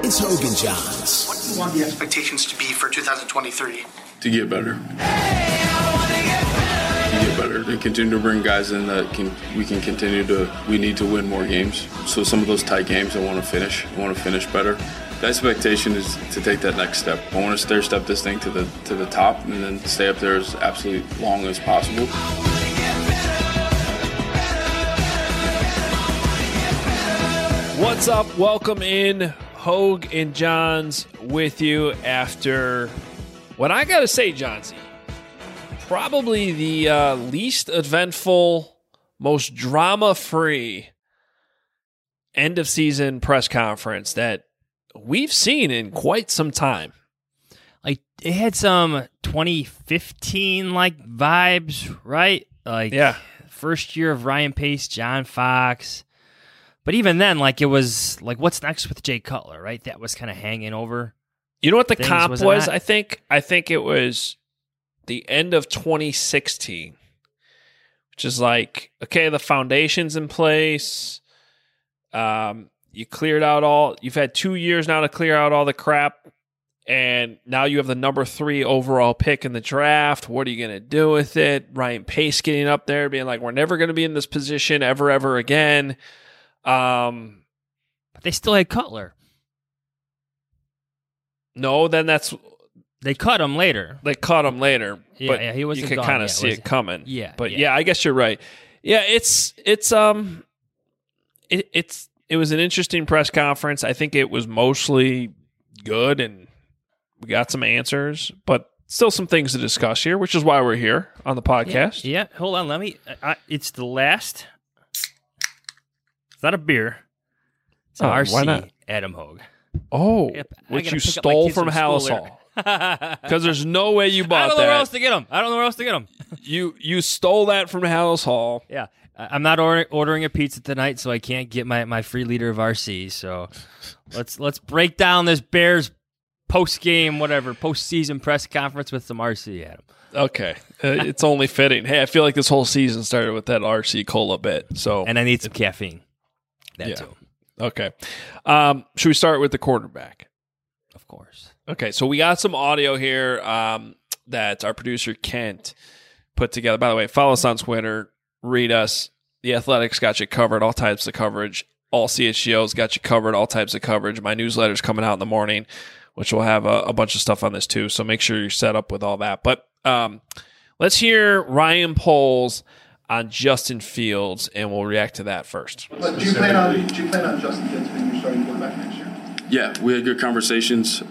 It's Hogan Johns. What do you want the expectations to be for 2023? To get better. To continue to bring guys in that we need to win more games. So some of those tight games I want to finish better. The expectation is to take that next step. I want to stair-step this thing to the top and then stay up there as absolutely long as possible. What's up? Welcome in. Hogue and Johns with you after what I got to say, Johnsy, probably the least eventful, most drama-free end-of-season press conference that we've seen in quite some time. Like, it had some 2015-like vibes, right? Like, yeah. First year of Ryan Pace, John Fox. But even then, like, it was like, what's next with Jay Cutler, right? That was kind of hanging over. You know what the things, comp was? I think it was the end of 2016, which is like, okay, the foundation's in place. You cleared out you've had 2 years now to clear out all the crap, and now you have the number 3 overall pick in the draft. What are you going to do with it? Ryan Pace getting up there, being like, we're never going to be in this position ever again. But they still had Cutler. No, then they cut him later. Yeah, he wasn't. You could kind of see it coming. Yeah, but yeah, I guess you're right. Yeah, it was an interesting press conference. I think it was mostly good, and we got some answers, but still some things to discuss here, which is why we're here on the podcast. Yeah. Hold on, let me. It's the last. It's not a beer. It's an RC. Why not? Adam Hogue. Oh, which you stole from Hallis Hall. Because there's no way you bought that. I don't know where else to get them. You stole that from Hallis Hall. Yeah. I'm not ordering a pizza tonight, so I can't get my free liter of RC. So let's break down this Bears postseason press conference with some RC, Adam. Okay. It's only fitting. Hey, I feel like this whole season started with that RC Cola bit. And I need some caffeine. That too. Okay. Should we start with the quarterback? Of course. Okay, so we got some audio here that our producer Kent put together. By the way, follow us on Twitter. Read us. The Athletics got you covered, all types of coverage. All CHGO's got you covered, all types of coverage. My newsletter's coming out in the morning, which will have a bunch of stuff on this too, so make sure you're set up with all that. But let's hear Ryan Poles on Justin Fields, and we'll react to that first. But do you plan on Justin Fields being your starting quarterback next year? Yeah, we had good conversations.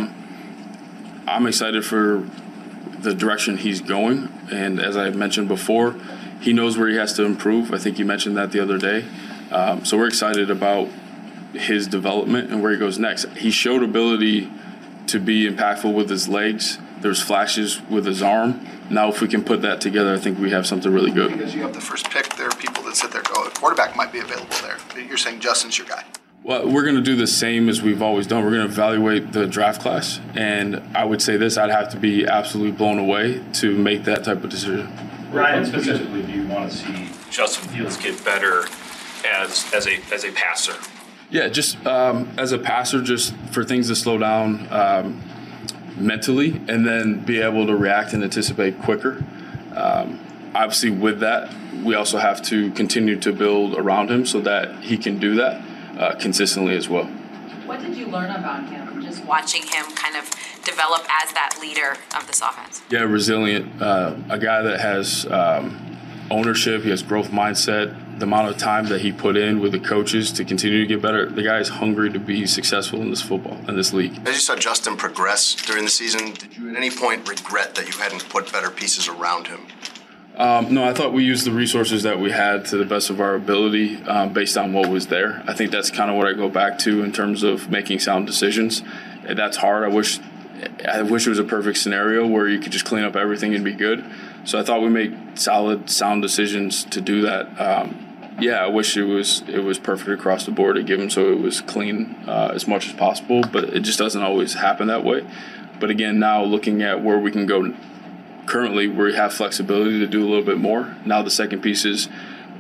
I'm excited for the direction he's going, and as I mentioned before, he knows where he has to improve. I think you mentioned that the other day. So we're excited about his development and where he goes next. He showed ability to be impactful with his legs. There's flashes with his arm. Now, if we can put that together, I think we have something really good. Because you have the first pick, there are people that sit there and go, a quarterback might be available there. You're saying Justin's your guy. Well, we're going to do the same as we've always done. We're going to evaluate the draft class. And I would say this, I'd have to be absolutely blown away to make that type of decision. Ryan, specifically, do you want to see Justin Fields get better as a passer? Yeah, just as a passer, just for things to slow down mentally and then be able to react and anticipate quicker. Obviously, with that, we also have to continue to build around him so that he can do that consistently as well. What did you learn about him, just watching him kind of develop as that leader of this offense? Yeah, resilient. A guy that has ownership, he has growth mindset. The amount of time that he put in with the coaches to continue to get better, the guy is hungry to be successful in this league. As you saw Justin progress during the season, did you at any point regret that you hadn't put better pieces around him? No, I thought we used the resources that we had to the best of our ability based on what was there. I think that's kind of what I go back to in terms of making sound decisions. And that's hard. I wish it was a perfect scenario where you could just clean up everything and be good. So I thought we made solid, sound decisions to do that. I wish it was perfect across the board to give him so it was clean as much as possible, but it just doesn't always happen that way. But again, now looking at where we can go currently, we have flexibility to do a little bit more. Now the second piece is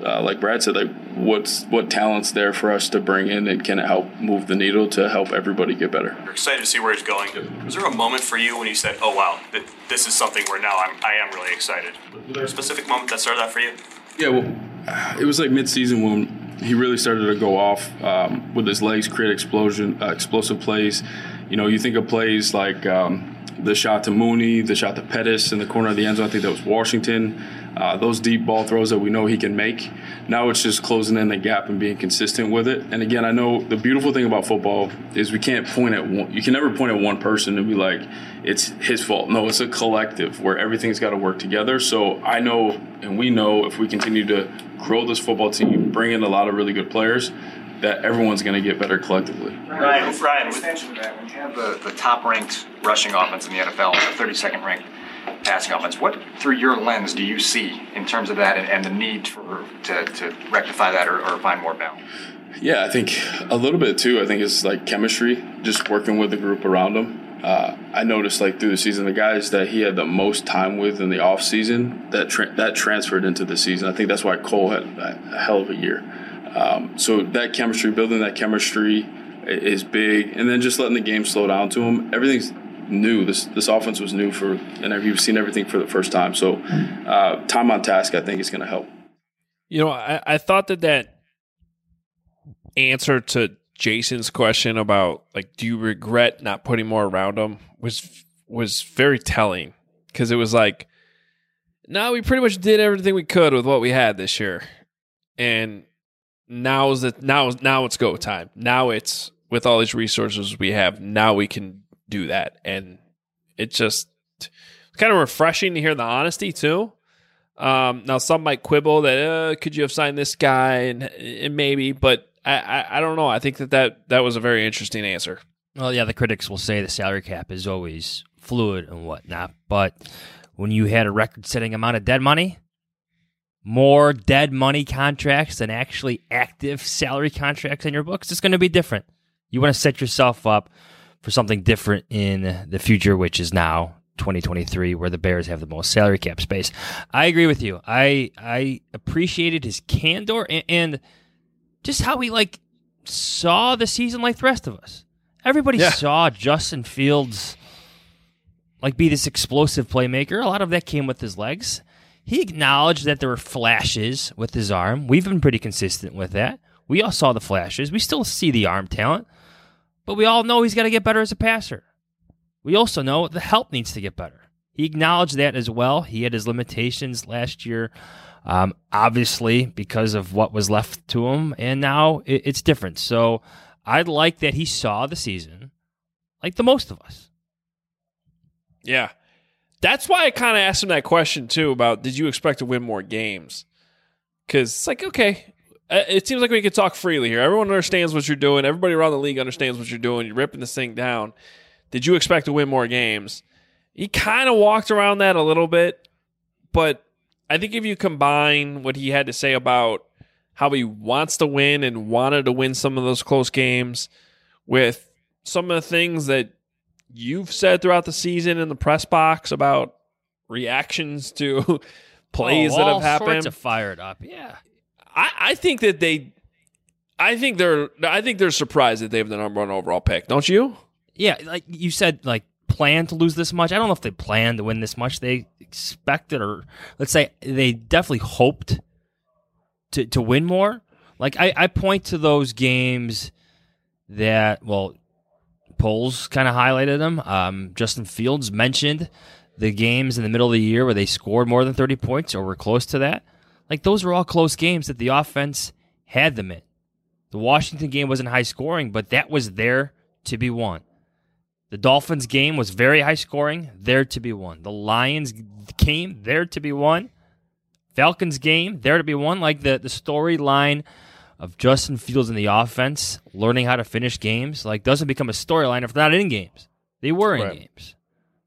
like Brad said, like what talent's there for us to bring in, and can it help move the needle to help everybody get better? You're excited to see where he's going. Was there a moment for you when you said, "Oh wow, this is something where now I am really excited"? Was there a specific moment that started that for you? Yeah, well, it was like mid-season when he really started to go off with his legs, create explosive plays. You know, you think of plays like the shot to Mooney, the shot to Pettis in the corner of the end zone. I think that was Washington. Those deep ball throws that we know he can make. Now it's just closing in the gap and being consistent with it. And again, I know the beautiful thing about football is we can't point at one. You can never point at one person and be like, it's his fault. No, it's a collective where everything's got to work together. So I know, and we know, if we continue to grow this football team, bring in a lot of really good players, that everyone's going to get better collectively. Ryan, extension of that, when you have the top-ranked rushing offense in the NFL, the 32nd ranked passing offense, what, through your lens, do you see in terms of that and the need to rectify that or find more balance? Yeah, I think a little bit too. I think it's like chemistry, just working with the group around him. I noticed like through the season, the guys that he had the most time with in the off season, that transferred into the season. I think that's why Cole had a hell of a year. So that chemistry, building that chemistry is big, and then just letting the game slow down to him. Everything's new. This offense was new and he was seeing everything for the first time. So time on task, I think, is going to help. You know, I thought that answer to Jason's question about, like, do you regret not putting more around him was very telling, because it was like, no, we pretty much did everything we could with what we had this year, and now it's go time. Now it's, with all these resources we have, now we can do that, and it's just kind of refreshing to hear the honesty too. Now some might quibble that could you have signed this guy, and maybe, but I don't know. I think that was a very interesting answer. Well, yeah, the critics will say the salary cap is always fluid and whatnot, but when you had a record-setting amount of dead money, more dead money contracts than actually active salary contracts in your books, it's going to be different. You want to set yourself up for something different in the future, which is now 2023, where the Bears have the most salary cap space. I agree with you. I appreciated his candor and just how he saw the season like the rest of us. Everybody saw Justin Fields be this explosive playmaker. A lot of that came with his legs. He acknowledged that there were flashes with his arm. We've been pretty consistent with that. We all saw the flashes. We still see the arm talent, but we all know he's got to get better as a passer. We also know the help needs to get better. He acknowledged that as well. He had his limitations last year, obviously, because of what was left to him, and now it's different. So I like that he saw the season like the most of us. Yeah. That's why I kind of asked him that question, too, about did you expect to win more games? Because it's like, okay, it seems like we can talk freely here. Everyone understands what you're doing. Everybody around the league understands what you're doing. You're ripping this thing down. Did you expect to win more games? He kind of walked around that a little bit, but I think if you combine what he had to say about how he wants to win and wanted to win some of those close games with some of the things that you've said throughout the season in the press box about reactions to plays that have happened. All sorts of fired up, yeah. I think that they're surprised that they have the number one overall pick. Don't you? Yeah, like you said, plan to lose this much. I don't know if they planned to win this much. They expected, or let's say they definitely hoped to win more. I point to those games that, polls kind of highlighted them. Justin Fields mentioned the games in the middle of the year where they scored more than 30 points or were close to that. Those were all close games that the offense had them in. The Washington game wasn't high scoring, but that was there to be won. The Dolphins game was very high scoring, there to be won. The Lions game, there to be won. Falcons game, there to be won. The storyline of Justin Fields in the offense, learning how to finish games, doesn't become a storyline if they're not in games. They were in games.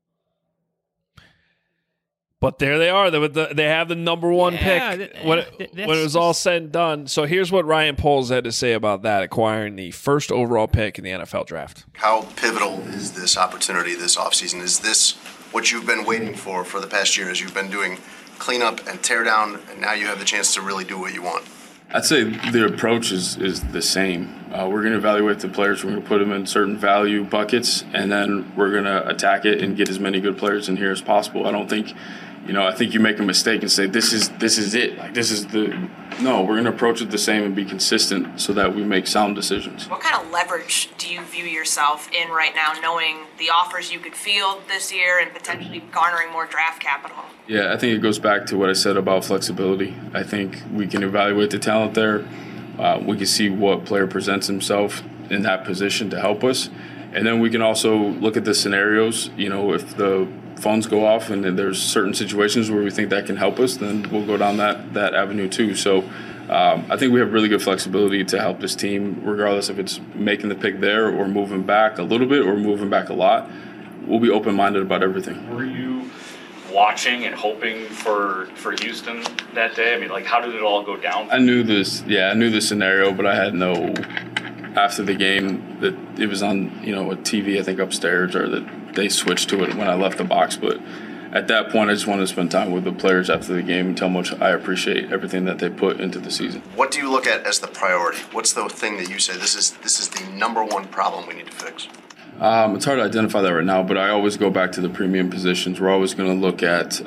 But there they are. They have the number one pick when it was all said and done. So here's what Ryan Poles had to say about that, acquiring the first overall pick in the NFL draft. How pivotal is this opportunity this offseason? Is this what you've been waiting for the past year, as you've been doing clean up and tear down, and now you have the chance to really do what you want? I'd say the approach is the same. We're going to evaluate the players. We're going to put them in certain value buckets, and then we're going to attack it and get as many good players in here as possible. I don't think, I think you make a mistake and say this is it. Like this is the. No, we're going to approach it the same and be consistent so that we make sound decisions. What kind of leverage do you view yourself in right now, knowing the offers you could field this year and potentially garnering more draft capital? Yeah, I think it goes back to what I said about flexibility. I think we can evaluate the talent there. We can see what player presents himself in that position to help us. And then we can also look at the scenarios. If the phones go off and there's certain situations where we think that can help us, then we'll go down that avenue too. So I think we have really good flexibility to help this team, regardless if it's making the pick there or moving back a little bit or moving back a lot. We'll be open-minded about everything. Were you watching and hoping for Houston that day? I mean, like, how did it all go down? I knew this. Yeah, I knew the scenario, but I had no. After the game, that it was on a TV, I think upstairs, or that they switched to it when I left the box. But at that point, I just wanted to spend time with the players after the game and tell them how much I appreciate everything that they put into the season. What do you look at as the priority? What's the thing that you say this is the number one problem we need to fix? It's hard to identify that right now, but I always go back to the premium positions. We're always going to look at,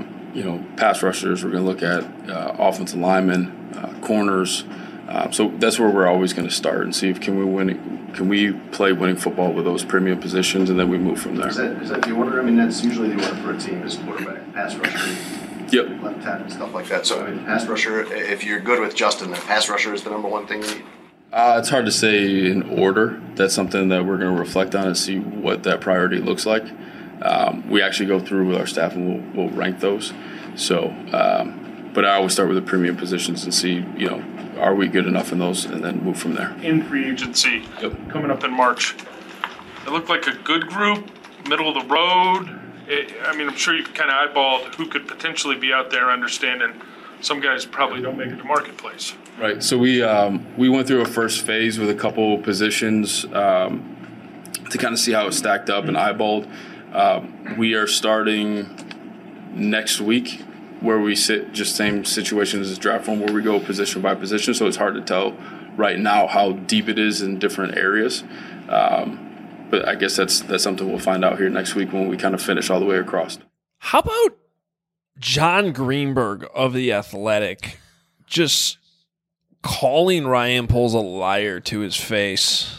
pass rushers. We're going to look at offensive linemen, corners. So that's where we're always going to start and see if can we play winning football with those premium positions, and then we move from there. Is that the order? I mean, that's usually the order for a team is quarterback, pass rusher, yep, left tackle, stuff like that. So, pass rusher, if you're good with Justin, then pass rusher is the number one thing you need? It's hard to say in order. That's something that we're going to reflect on and see what that priority looks like. We actually go through with our staff and we'll rank those. So, but I always start with the premium positions and see, are we good enough in those, and then move from there. In free agency, coming up in March, it looked like a good group, middle of the road. I'm sure you've kind of eyeballed who could potentially be out there, understanding some guys probably don't make it to marketplace. Right. So we went through a first phase with a couple positions to kind of see how it stacked up and eyeballed. We are starting next week where we sit just same situation as this draft form where we go position by position. So it's hard to tell right now how deep it is in different areas. But I guess that's something we'll find out here next week when we kind of finish all the way across. How about John Greenberg of The Athletic just calling Ryan Poles a liar to his face?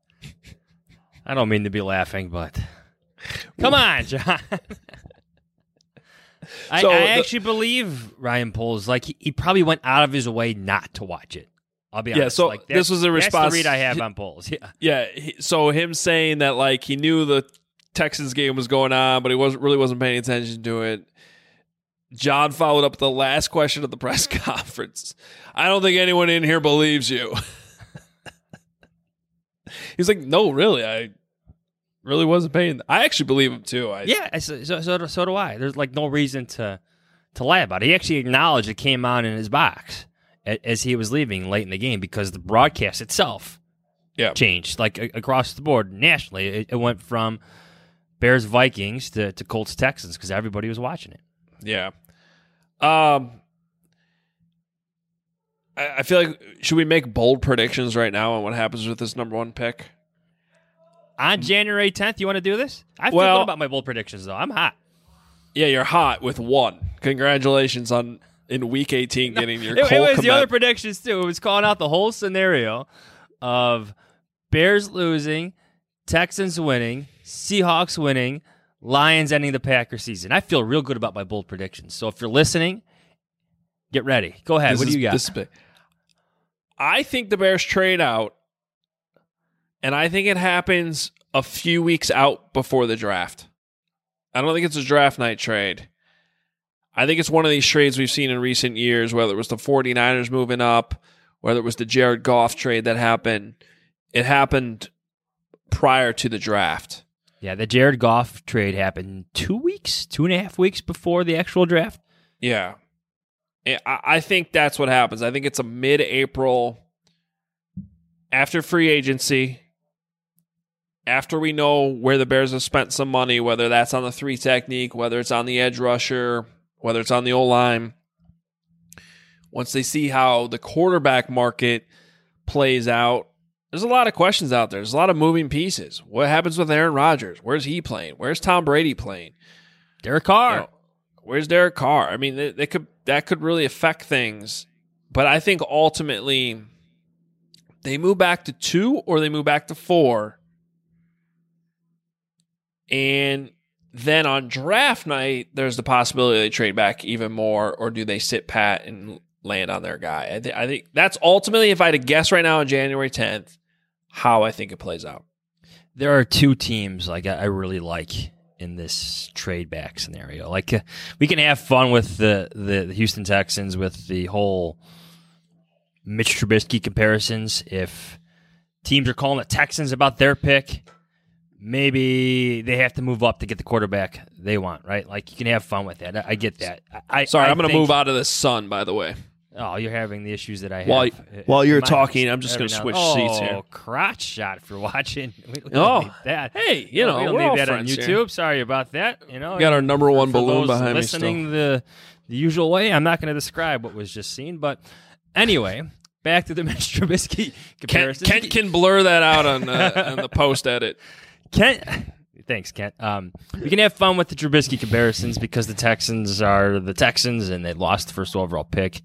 I don't mean to be laughing, but come on, John. I actually believe Ryan Poles. Like he probably went out of his way not to watch it. I'll be honest. Yeah, so like, this was a response. That's the read I have on Poles. Yeah. So him saying that like he knew the Texans game was going on, but he wasn't paying attention to it. John followed up with the last question at the press conference. I don't think anyone in here believes you. He's like, no, really, I really wasn't paying. I actually believe him too. So do I. There's like no reason to lie about it. He actually acknowledged it came on in his box as he was leaving late in the game because the broadcast itself changed like across the board nationally. It went from Bears Vikings to Colts Texans because everybody was watching it. Yeah. I feel like, should we make bold predictions right now on what happens with this number one pick? On January 10th, you want to do this? I feel good about my bold predictions, though. I'm hot. Yeah, you're hot with one. Congratulations on in week 18 getting your Cole It was Kmet. the other predictions, too. It was calling out the whole scenario of Bears losing, Texans winning, Seahawks winning, Lions ending the Packers season. I feel real good about my bold predictions. So if you're listening, get ready. Go ahead. What do you got? I think the Bears trade out, and I think it happens a few weeks out before the draft. I don't think it's a draft night trade. I think it's one of these trades we've seen in recent years, whether it was the 49ers moving up, whether it was the Jared Goff trade that happened. It happened prior to the draft. Yeah, the Jared Goff trade happened 2.5 weeks before the actual draft. Yeah. I think that's what happens. I think it's a mid-April, after free agency, after we know where the Bears have spent some money, whether that's on the 3 technique, whether it's on the edge rusher, whether it's on the O-line, once they see how the quarterback market plays out, there's a lot of questions out there. There's a lot of moving pieces. What happens with Aaron Rodgers? Where's he playing? Where's Tom Brady playing? Derek Carr. Where's Derek Carr? I mean, that could really affect things. But I think ultimately they move back to 2 or they move back to 4. And then on draft night, there's the possibility they trade back even more, or do they sit pat and land on their guy? I think that's ultimately, if I had to guess right now on January 10th, how I think it plays out. There are 2 teams like I really like in this trade back scenario. Like we can have fun with the Houston Texans with the whole Mitch Trubisky comparisons. If teams are calling the Texans about their pick, maybe they have to move up to get the quarterback they want, right? Like, you can have fun with that. I get that. I'm going to move out of the sun, by the way. Oh, you're having the issues that I have. While you're talking, I'm just going to switch seats here. Oh, crotch shot for watching. We Oh, don't need that. Hey, we don't we're all need that on friends YouTube. here. Sorry about that. We got our number one balloon those behind me listening the usual way, I'm not going to describe what was just seen. But anyway, back to the Mitch Trubisky comparison. Kent can blur that out on the post edit. Thanks, Kent. We can have fun with the Trubisky comparisons because the Texans are the Texans and they lost the first overall pick.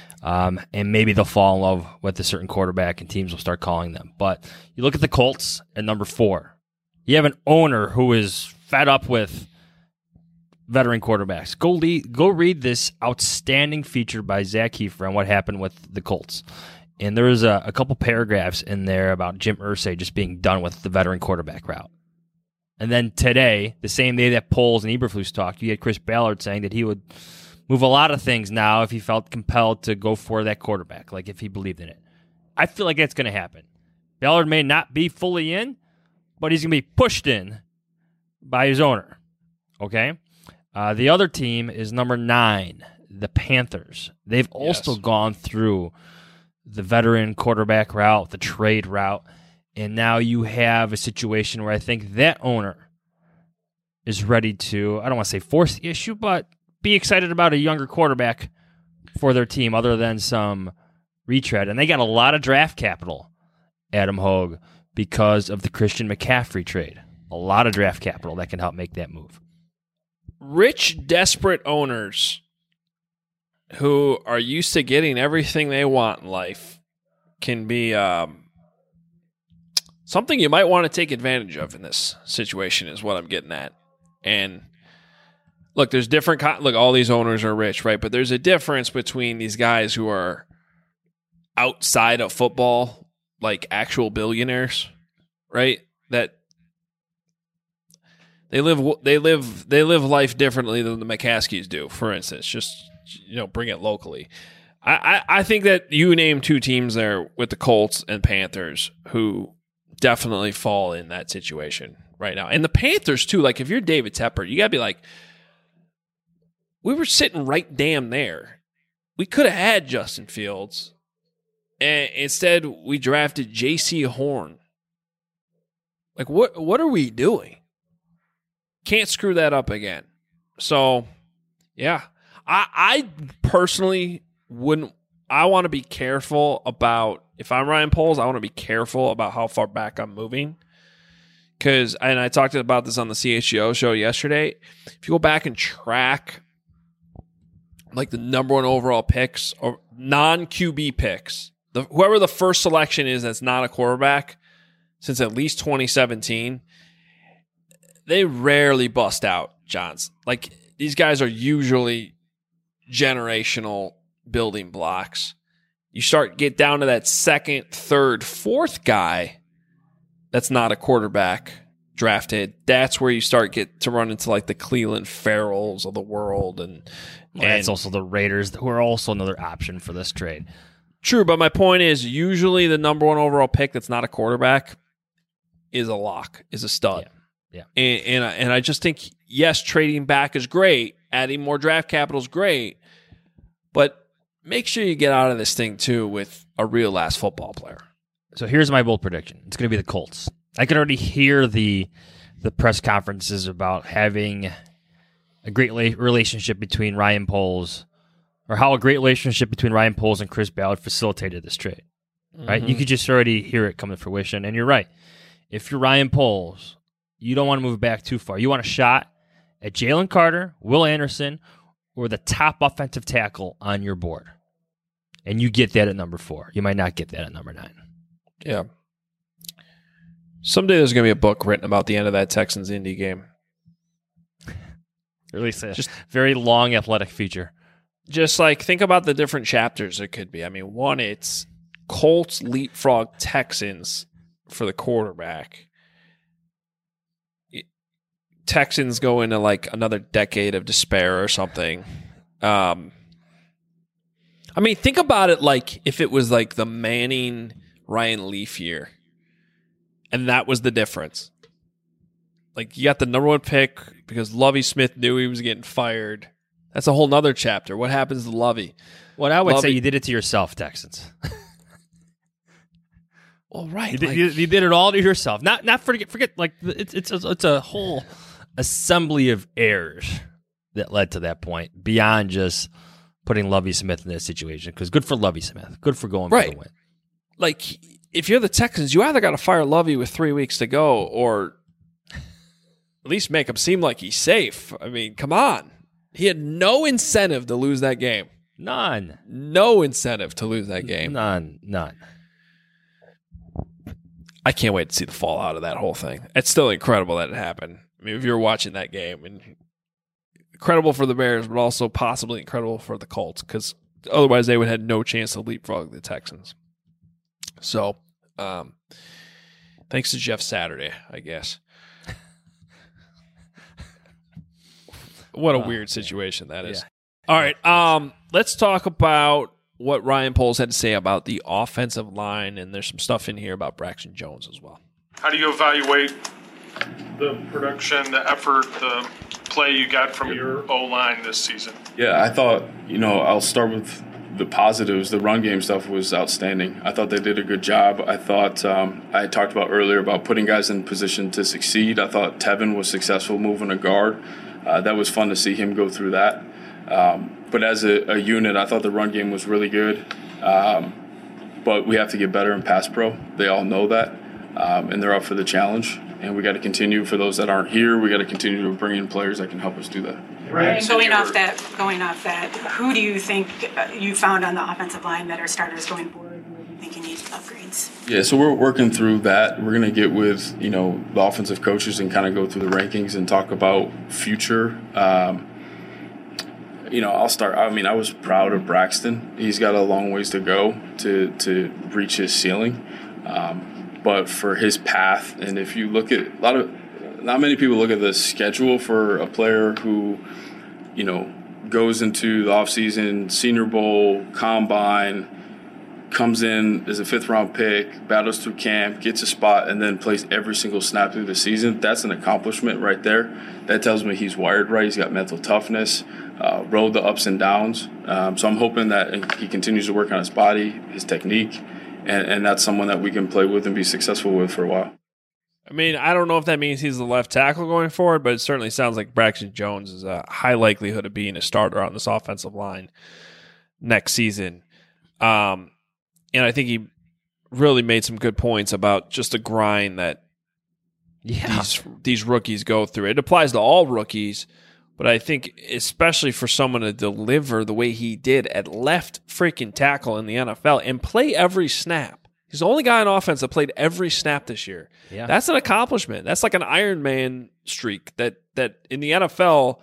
And maybe they'll fall in love with a certain quarterback and teams will start calling them. But you look at the Colts at number 4. You have an owner who is fed up with veteran quarterbacks. Go read this outstanding feature by Zach Kiefer on what happened with the Colts. And there was a couple paragraphs in there about Jim Irsay just being done with the veteran quarterback route. And then today, the same day that Poles and Eberflus talked, you had Chris Ballard saying that he would move a lot of things now if he felt compelled to go for that quarterback, like if he believed in it. I feel like that's going to happen. Ballard may not be fully in, but he's going to be pushed in by his owner. Okay? The other team is number 9, the Panthers. They've also gone through the veteran quarterback route, the trade route, and now you have a situation where I think that owner is ready to, I don't want to say force the issue, but be excited about a younger quarterback for their team other than some retread. And they got a lot of draft capital, Adam Hogue, because of the Christian McCaffrey trade. A lot of draft capital that can help make that move. Rich, desperate owners who are used to getting everything they want in life can be something you might want to take advantage of in this situation is what I'm getting at. And look, there's different look, all these owners are rich, right? But there's a difference between these guys who are outside of football, like actual billionaires, right? That they live life differently than the McCaskies do, for instance. Just, bring it locally. I think that you named 2 teams there with the Colts and Panthers who definitely fall in that situation right now. And the Panthers, too, like if you're David Tepper, you got to be like, we were sitting right damn there. We could have had Justin Fields. And instead, we drafted J.C. Horn. Like, what are we doing? Can't screw that up again. So, yeah. I personally wouldn't. I want to be careful about, if I'm Ryan Poles, I want to be careful about how far back I'm moving. And I talked about this on the CHGO show yesterday. If you go back and track like the number 1 overall picks or non-QB picks, whoever the first selection is that's not a quarterback since at least 2017, they rarely bust out, Johns. Like, these guys are usually generational building blocks. You get down to that 2nd, 3rd, 4th guy that's not a quarterback drafted. That's where you start to run into like the Cleveland Farrells of the world. And it's also the Raiders, who are also another option for this trade. True, but my point is usually the number 1 overall pick that's not a quarterback is a lock, is a stud. Yeah. And I just think, yes, trading back is great. Adding more draft capital is great. But make sure you get out of this thing, too, with a real last football player. So here's my bold prediction. It's going to be the Colts. I can already hear the press conferences about having a great relationship between Ryan Poles, or how a great relationship between Ryan Poles and Chris Ballard facilitated this trade. Right? You could just already hear it come to fruition. And you're right. If you're Ryan Poles, you don't want to move back too far. You want a shot at Jalen Carter, Will Anderson, or the top offensive tackle on your board. And you get that at number 4. You might not get that at number 9. Yeah. Someday there's going to be a book written about the end of that Texans-Indy game. Or at least a just very long athletic feature. Just like, think about the different chapters it could be. I mean, one, it's Colts leapfrog Texans for the quarterback. Texans go into like another decade of despair or something. I mean, think about it like if it was like the Manning Ryan Leaf year, and that was the difference. Like, you got the number 1 pick because Lovie Smith knew he was getting fired. That's a whole nother chapter. What happens to Lovie? Well, I would say you did it to yourself, Texans. Well, right. You did it all to yourself. Not forget. Like, it's a whole assembly of errors that led to that point beyond just putting Lovie Smith in that situation. Because good for Lovie Smith. Good for going for the win. Like, if you're the Texans, you either got to fire Lovie with 3 weeks to go, or at least make him seem like he's safe. I mean, come on. He had no incentive to lose that game. None. No incentive to lose that game. None. I can't wait to see the fallout of that whole thing. It's still incredible that it happened. I mean, if you're watching that game, and incredible for the Bears, but also possibly incredible for the Colts, because otherwise they would have had no chance to leapfrog the Texans. So, thanks to Jeff Saturday, I guess. What a weird situation that is. Yeah. All right, let's talk about what Ryan Poles had to say about the offensive line, and there's some stuff in here about Braxton Jones as well. How do you evaluate the production, the effort, the play you got from your O-line this season? Yeah, I thought, I'll start with the positives. The run game stuff was outstanding. I thought they did a good job. I thought I had talked about earlier about putting guys in position to succeed. I thought Tevin was successful moving a guard. That was fun to see him go through that. But as a unit, I thought the run game was really good. But we have to get better in pass pro. They all know that, and they're up for the challenge. And we got to continue, for those that aren't here, we got to continue to bring in players that can help us do that. Right. And going off that, who do you think you found on the offensive line that are starters going forward? And you think you need upgrades? Yeah, so we're working through that. We're going to get with the offensive coaches and kind of go through the rankings and talk about future. I'll start. I mean, I was proud of Braxton. He's got a long ways to go to reach his ceiling. But for his path, and if you look at not many people look at the schedule for a player who, goes into the offseason, Senior Bowl, Combine, comes in as a 5th-round pick, battles through camp, gets a spot, and then plays every single snap through the season. That's an accomplishment right there. That tells me he's wired right. He's got mental toughness, rode the ups and downs. So I'm hoping that he continues to work on his body, his technique, and that's someone that we can play with and be successful with for a while. I mean, I don't know if that means he's the left tackle going forward, but it certainly sounds like Braxton Jones is a high likelihood of being a starter on this offensive line next season. And I think he really made some good points about just the grind that these rookies go through. It applies to all rookies, but I think especially for someone to deliver the way he did at left freaking tackle in the NFL and play every snap. He's the only guy on offense that played every snap this year. Yeah. That's an accomplishment. That's like an Iron Man streak that in the NFL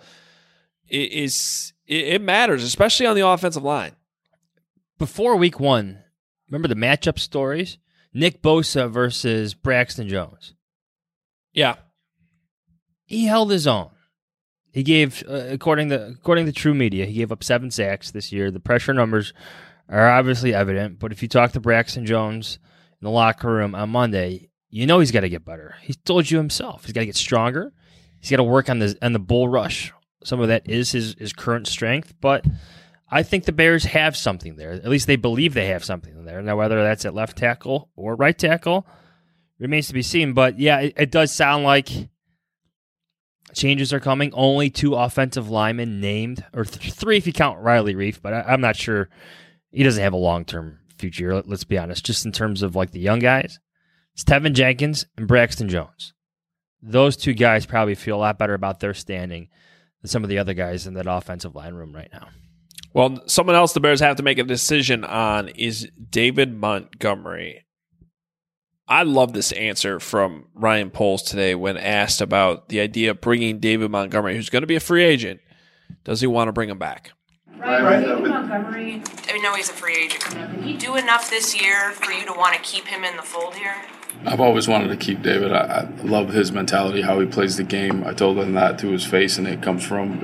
it matters, especially on the offensive line. Before week 1, remember the matchup stories? Nick Bosa versus Braxton Jones. Yeah. He held his own. He gave, according to True Media, he gave up 7 sacks this year. The pressure numbers are obviously evident, but if you talk to Braxton Jones in the locker room on Monday, he's got to get better. He told you himself. He's got to get stronger. He's got to work on the bull rush. Some of that is his current strength, but I think the Bears have something there. At least they believe they have something there. Now, whether that's at left tackle or right tackle remains to be seen. But, yeah, it does sound like changes are coming. Only 2 offensive linemen named, or 3 if you count Riley Reef, but I'm not sure. He doesn't have a long-term future, let's be honest. Just in terms of like the young guys, it's Tevin Jenkins and Braxton Jones. Those 2 guys probably feel a lot better about their standing than some of the other guys in that offensive line room right now. Well, someone else the Bears have to make a decision on is David Montgomery. I love this answer from Ryan Poles today when asked about the idea of bringing David Montgomery, who's going to be a free agent. Does he want to bring him back? Right. David Montgomery, I know he's a free agent coming up. Did he do enough this year for you to want to keep him in the fold here? I've always wanted to keep David. I love his mentality, how he plays the game. I told him that to his face, and it comes from,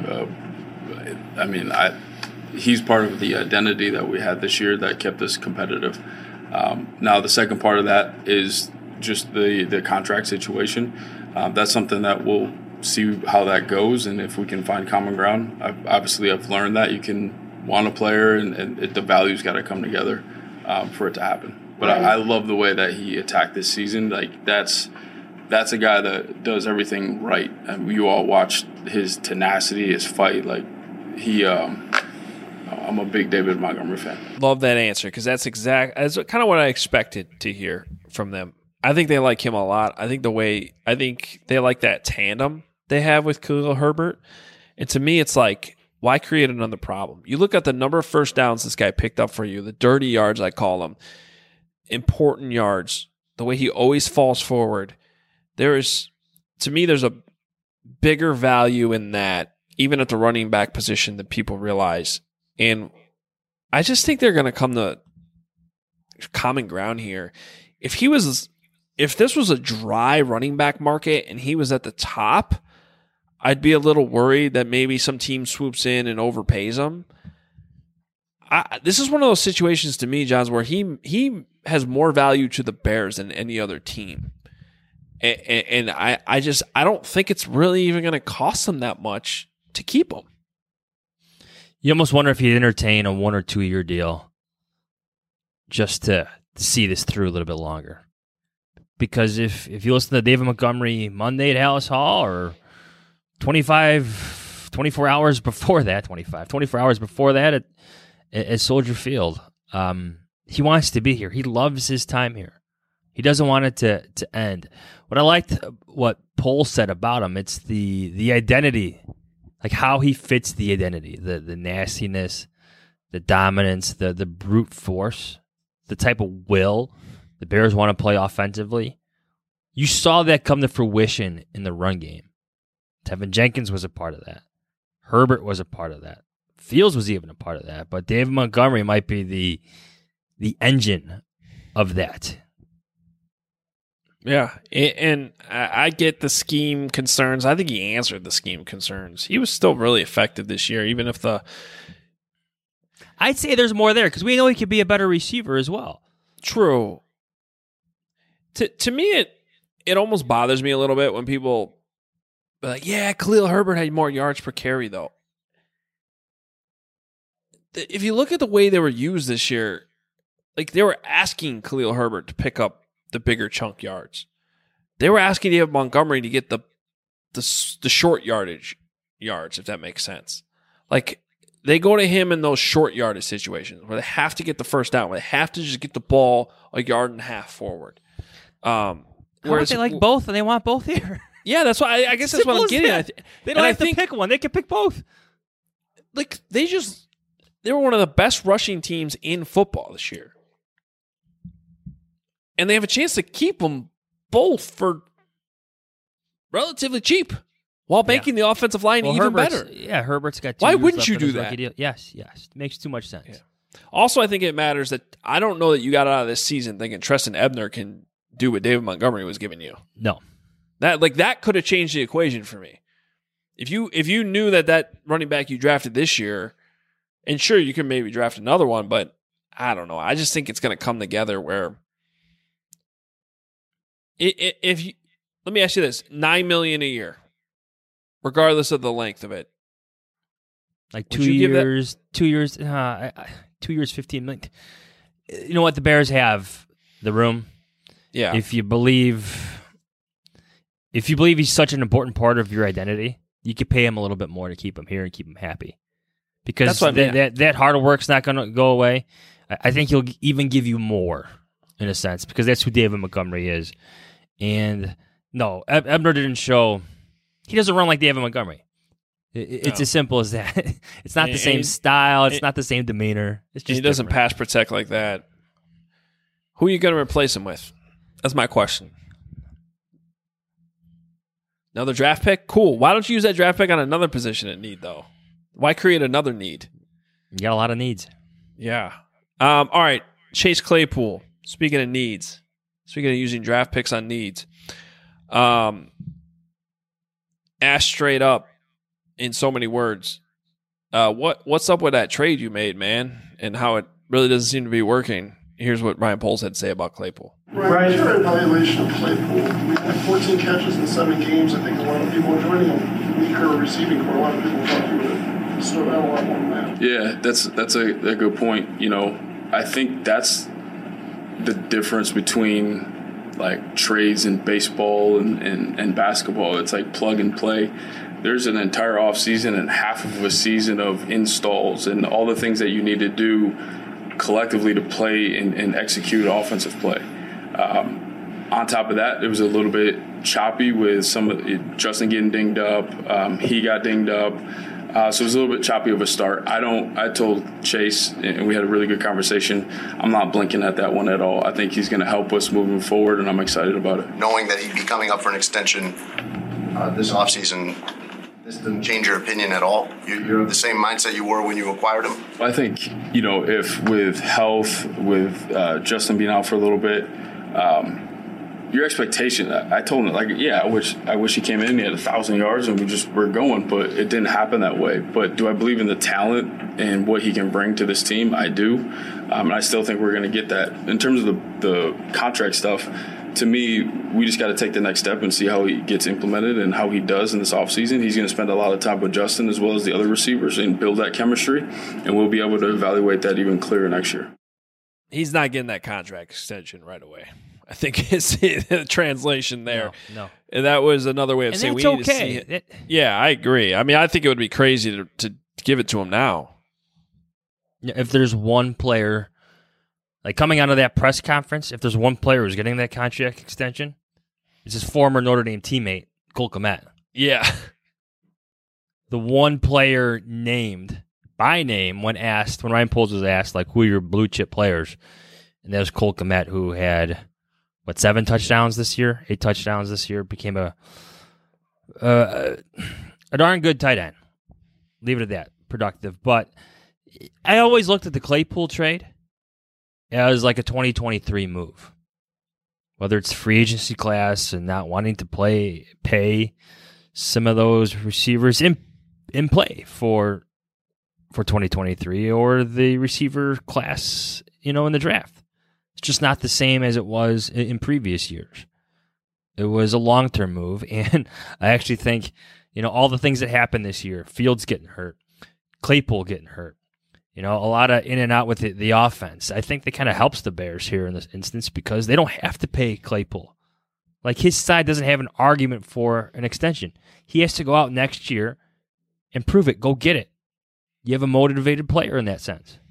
he's part of the identity that we had this year that kept us competitive. Now, the second part of that is just the contract situation. That's something that we'll see how that goes, and if we can find common ground. I've learned that you can want a player, and the value's got to come together for it to happen. But I love the way that he attacked this season. Like that's a guy that does everything right. And you all watched his tenacity, his fight. Like I'm a big David Montgomery fan. Love that answer because that's kind of what I expected to hear from them. I think they like him a lot. I think they like that tandem they have with Khalil Herbert. And to me, it's like, why create another problem? You look at the number of first downs this guy picked up for you, the dirty yards, I call them, important yards, the way he always falls forward. There's a bigger value in that, even at the running back position, than people realize. And I just think they're going to come to common ground here. If this was a dry running back market and he was at the top, I'd be a little worried that maybe some team swoops in and overpays him. This is one of those situations to me, Johns, where he has more value to the Bears than any other team. And I don't think it's really even going to cost them that much to keep him. You almost wonder if he'd entertain a 1 or 2 year deal just to see this through a little bit longer. Because if you listen to David Montgomery Monday at Hallis Hall or 24 hours before that at Soldier Field, he wants to be here. He loves his time here. He doesn't want it to end. What I liked what Pohl said about him, it's the identity, like how he fits the identity, the nastiness, the dominance, the brute force, the type of will the Bears want to play offensively. You saw that come to fruition in the run game. Tevin Jenkins was a part of that. Herbert was a part of that. Fields was even a part of that. But David Montgomery might be the engine of that. Yeah, and I get the scheme concerns. I think he answered the scheme concerns. He was still really effective this year, even if I'd say there's more there, because we know he could be a better receiver as well. True. To me, it almost bothers me a little bit when people are like, yeah, Khalil Herbert had more yards per carry, though. If you look at the way they were used this year, like they were asking Khalil Herbert to pick up the bigger chunk yards. They were asking David Montgomery to get the short yardage yards, if that makes sense. Like they go to him in those short yardage situations where they have to get the first down, where they have to just get the ball a yard and a half forward. Whereas they like both and they want both here. Yeah, that's why I guess that's what I'm getting at. They don't have to pick one; they can pick both. Like they were one of the best rushing teams in football this year. And they have a chance to keep them both for relatively cheap while making the offensive line even better. Yeah, Herbert's got 2 Why years wouldn't left you on do his that? rookie deal. Yes. It makes too much sense. Yeah. Also, I think it matters that I don't know that you got out of this season thinking Treston Ebner can do what David Montgomery was giving you. No. That could have changed the equation for me. If you knew that running back you drafted this year, and sure, you can maybe draft another one, but I don't know. I just think it's going to come together where let me ask you this: $9 million a year, regardless of the length of it. Like 2 years, 2 years, 15 million. You know what? The Bears have the room. Yeah. If you believe if you believe he's such an important part of your identity, you could pay him a little bit more to keep him here and keep him happy. Because that hard work's not going to go away. I think he'll even give you more, in a sense, because that's who David Montgomery is. And no, Ebner didn't show. He doesn't run like David Montgomery. It's as simple as that. It's not the same style. It's not the same demeanor. It's just he doesn't pass protect like that. Who are you going to replace him with? That's my question. Another draft pick? Cool. Why don't you use that draft pick on another position at need, though? Why create another need? You got a lot of needs. Yeah. All right. Chase Claypool. Speaking of needs. Speaking of using draft picks on needs. Ask straight up in so many words. What's up with that trade you made, man? And how it really doesn't seem to be working. Here's what Ryan Poles had to say about Claypool. Ryan, your evaluation of Claypool. We had 14 catches in 7 games. I think a lot of people are joining a weaker receiving core. A lot of people thought he would have stood out a lot more than that. Yeah, that's a good point. You know, I think that's the difference between like trades in baseball and basketball. It's like plug and play. There's an entire offseason and half of a season of installs and all the things that you need to do collectively to play and execute offensive play. On top of that, it was a little bit choppy with Justin getting dinged up. He got dinged up. So it was a little bit choppy of a start. I told Chase, and we had a really good conversation, I'm not blinking at that one at all. I think he's going to help us moving forward, and I'm excited about it. Knowing that he'd be coming up for an extension this offseason, this didn't change your opinion at all? You're the same mindset you were when you acquired him? I think, if with health, with Justin being out for a little bit, your expectation, I told him, I wish he came in, he had 1,000 yards and we're going, but it didn't happen that way. But do I believe in the talent and what he can bring to this team? I do. And I still think we're going to get that. In terms of the contract stuff, to me, we just got to take the next step and see how he gets implemented and how he does in this offseason. He's going to spend a lot of time with Justin as well as the other receivers and build that chemistry, and we'll be able to evaluate that even clearer next year. He's not getting that contract extension right away. I think it's the translation there. No. And that was another way of saying we need to see it. Yeah, I agree. I mean, I think it would be crazy to give it to him now. If there's one player, like coming out of that press conference, if there's one player who's getting that contract extension, it's his former Notre Dame teammate, Cole Kmet. Yeah. The one player named by name when Ryan Poles was asked, who are your blue chip players? And that was Cole Kmet, who had 7 touchdowns this year, 8 touchdowns this year, became a darn good tight end. Leave it at that, productive. But I always looked at the Claypool trade as like a 2023 move. Whether it's free agency class and not wanting to pay some of those receivers in play for 2023 or the receiver class, in the draft. It's just not the same as it was in previous years. It was a long-term move, and I actually think, all the things that happened this year, Fields getting hurt, Claypool getting hurt, a lot of in and out with the offense. I think that kind of helps the Bears here in this instance because they don't have to pay Claypool. His side doesn't have an argument for an extension. He has to go out next year and prove it. Go get it. You have a motivated player in that sense.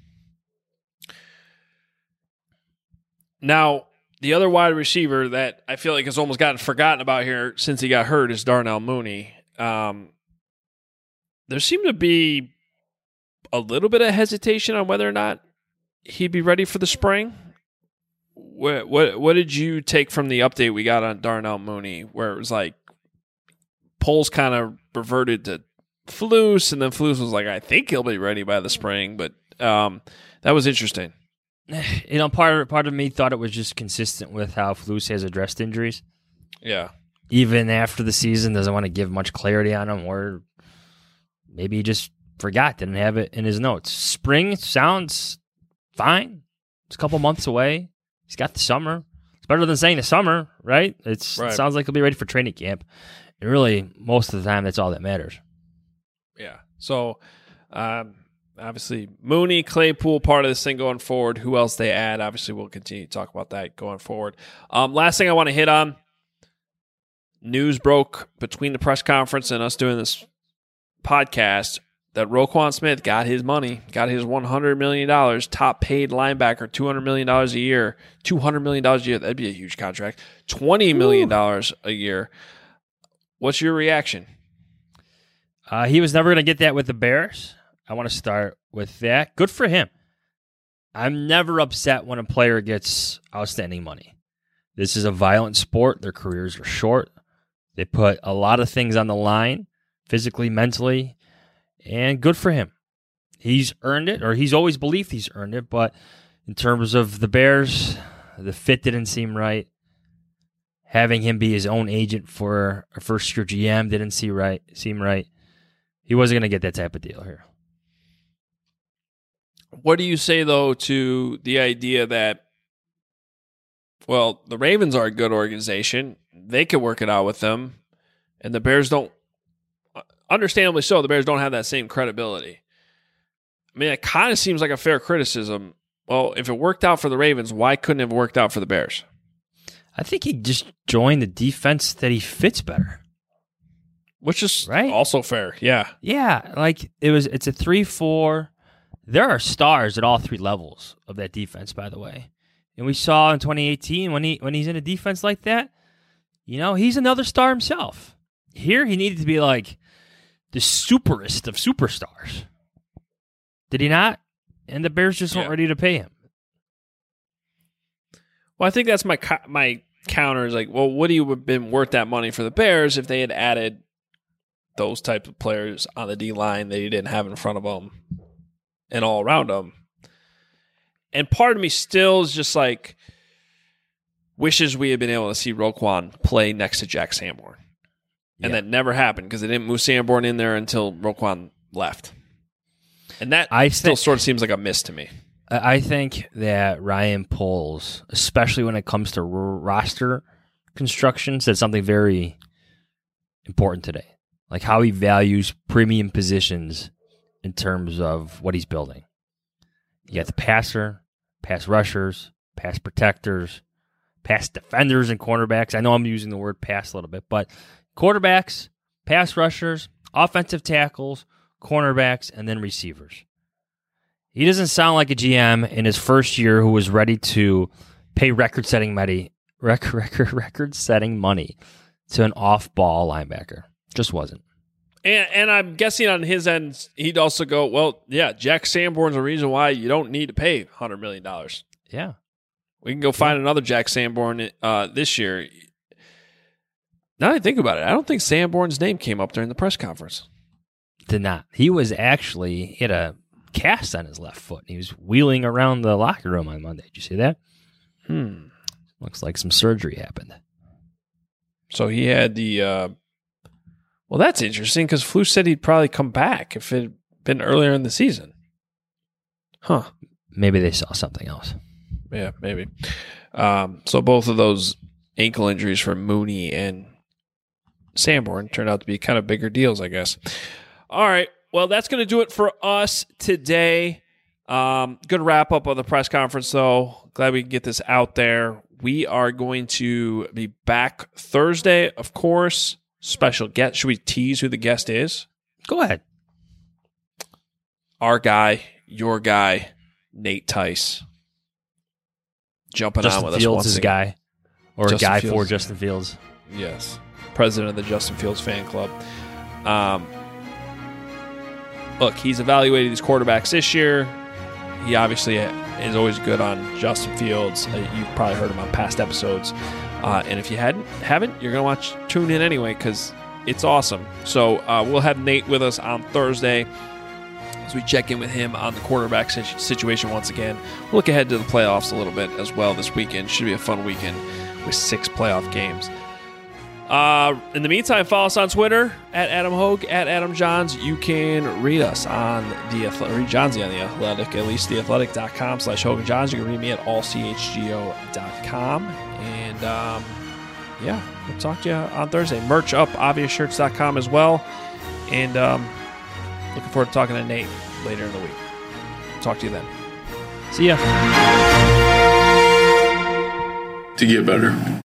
Now, the other wide receiver that I feel like has almost gotten forgotten about here since he got hurt is Darnell Mooney. There seemed to be a little bit of hesitation on whether or not he'd be ready for the spring. What did you take from the update we got on Darnell Mooney, where it was like Poles kind of reverted to Flus, and then Flus was like, I think he'll be ready by the spring, but that was interesting. Part of me thought it was just consistent with how Flus has addressed injuries. Yeah. Even after the season, doesn't want to give much clarity on them, or maybe he just forgot, didn't have it in his notes. Spring sounds fine. It's a couple months away. He's got the summer. It's better than saying the summer, right? It sounds like he'll be ready for training camp. And really, most of the time, that's all that matters. Yeah. So, obviously, Mooney, Claypool, part of this thing going forward. Who else they add? Obviously, we'll continue to talk about that going forward. Last thing I want to hit on, news broke between the press conference and us doing this podcast that Roquan Smith got his money, got his $100 million, top paid linebacker, $200 million a year, $200 million a year. That'd be a huge contract. $20 million a year. What's your reaction? He was never going to get that with the Bears. I want to start with that. Good for him. I'm never upset when a player gets outstanding money. This is a violent sport. Their careers are short. They put a lot of things on the line, physically, mentally, and good for him. He's earned it, or he's always believed he's earned it, but in terms of the Bears, the fit didn't seem right. Having him be his own agent for a first-year GM didn't seem right. He wasn't going to get that type of deal here. What do you say, though, to the idea that, well, the Ravens are a good organization. They could work it out with them, and the Bears don't, understandably so, the Bears don't have that same credibility. I mean, it kind of seems like a fair criticism. Well, if it worked out for the Ravens, why couldn't it have worked out for the Bears? I think he just joined the defense that he fits better. Which is right? Also fair, yeah. Yeah, like it's a 3-4. There are stars at all three levels of that defense, by the way. And we saw in 2018 when he's in a defense like that, he's another star himself. Here he needed to be like the superest of superstars. Did he not? And the Bears just weren't ready to pay him. Well, I think that's my counter is like, well, would he have been worth that money for the Bears if they had added those type of players on the D-line that he didn't have in front of him and all around him? And part of me still is just like, wishes we had been able to see Roquan play next to Jack Sanborn. And that never happened because they didn't move Sanborn in there until Roquan left. And that still sort of seems like a miss to me. I think that Ryan Poles, especially when it comes to roster construction, said something very important today. Like how he values premium positions in terms of what he's building. You got the passer, pass rushers, pass protectors, pass defenders and cornerbacks. I know I'm using the word pass a little bit, but quarterbacks, pass rushers, offensive tackles, cornerbacks, and then receivers. He doesn't sound like a GM in his first year who was ready to pay record-setting money to an off-ball linebacker. Just wasn't. And I'm guessing on his end, he'd also go, well, yeah, Jack Sanborn's the reason why you don't need to pay $100 million. Yeah. We can go find another Jack Sanborn this year. Now that I think about it, I don't think Sanborn's name came up during the press conference. Did not. He had a cast on his left foot. He was wheeling around the locker room on Monday. Did you see that? Looks like some surgery happened. So he had the... well, that's interesting because Flus said he'd probably come back if it had been earlier in the season. Huh. Maybe they saw something else. Yeah, maybe. So both of those ankle injuries for Mooney and Sanborn turned out to be kind of bigger deals, I guess. All right. Well, that's going to do it for us today. Good wrap up of the press conference, though. Glad we can get this out there. We are going to be back Thursday, of course. Special guest. Should we tease who the guest is? Go ahead. Our guy, your guy, Nate Tice. Jumping Justin on with Fields' us once guy. again. Or Justin a guy Fields. for Justin Fields. Yes. President of the Justin Fields fan club. Look, he's evaluated these quarterbacks this year. He obviously is always good on Justin Fields. You've probably heard him on past episodes. And if you haven't, you're going to tune in anyway because it's awesome. So we'll have Nate with us on Thursday as we check in with him on the quarterback situation once again. We'll look ahead to the playoffs a little bit as well this weekend. Should be a fun weekend with 6 playoff games. In the meantime, follow us on Twitter at Adam Hogue, at Adam Johns. You can read us on the Athletic, read Johnsy on the Athletic, at least theathletic.com/Hogue and Johns. You can read me at allchgo.com. And yeah, we'll talk to you on Thursday. Merch up, obviousshirts.com as well. And looking forward to talking to Nate later in the week. Talk to you then. See ya. To get better.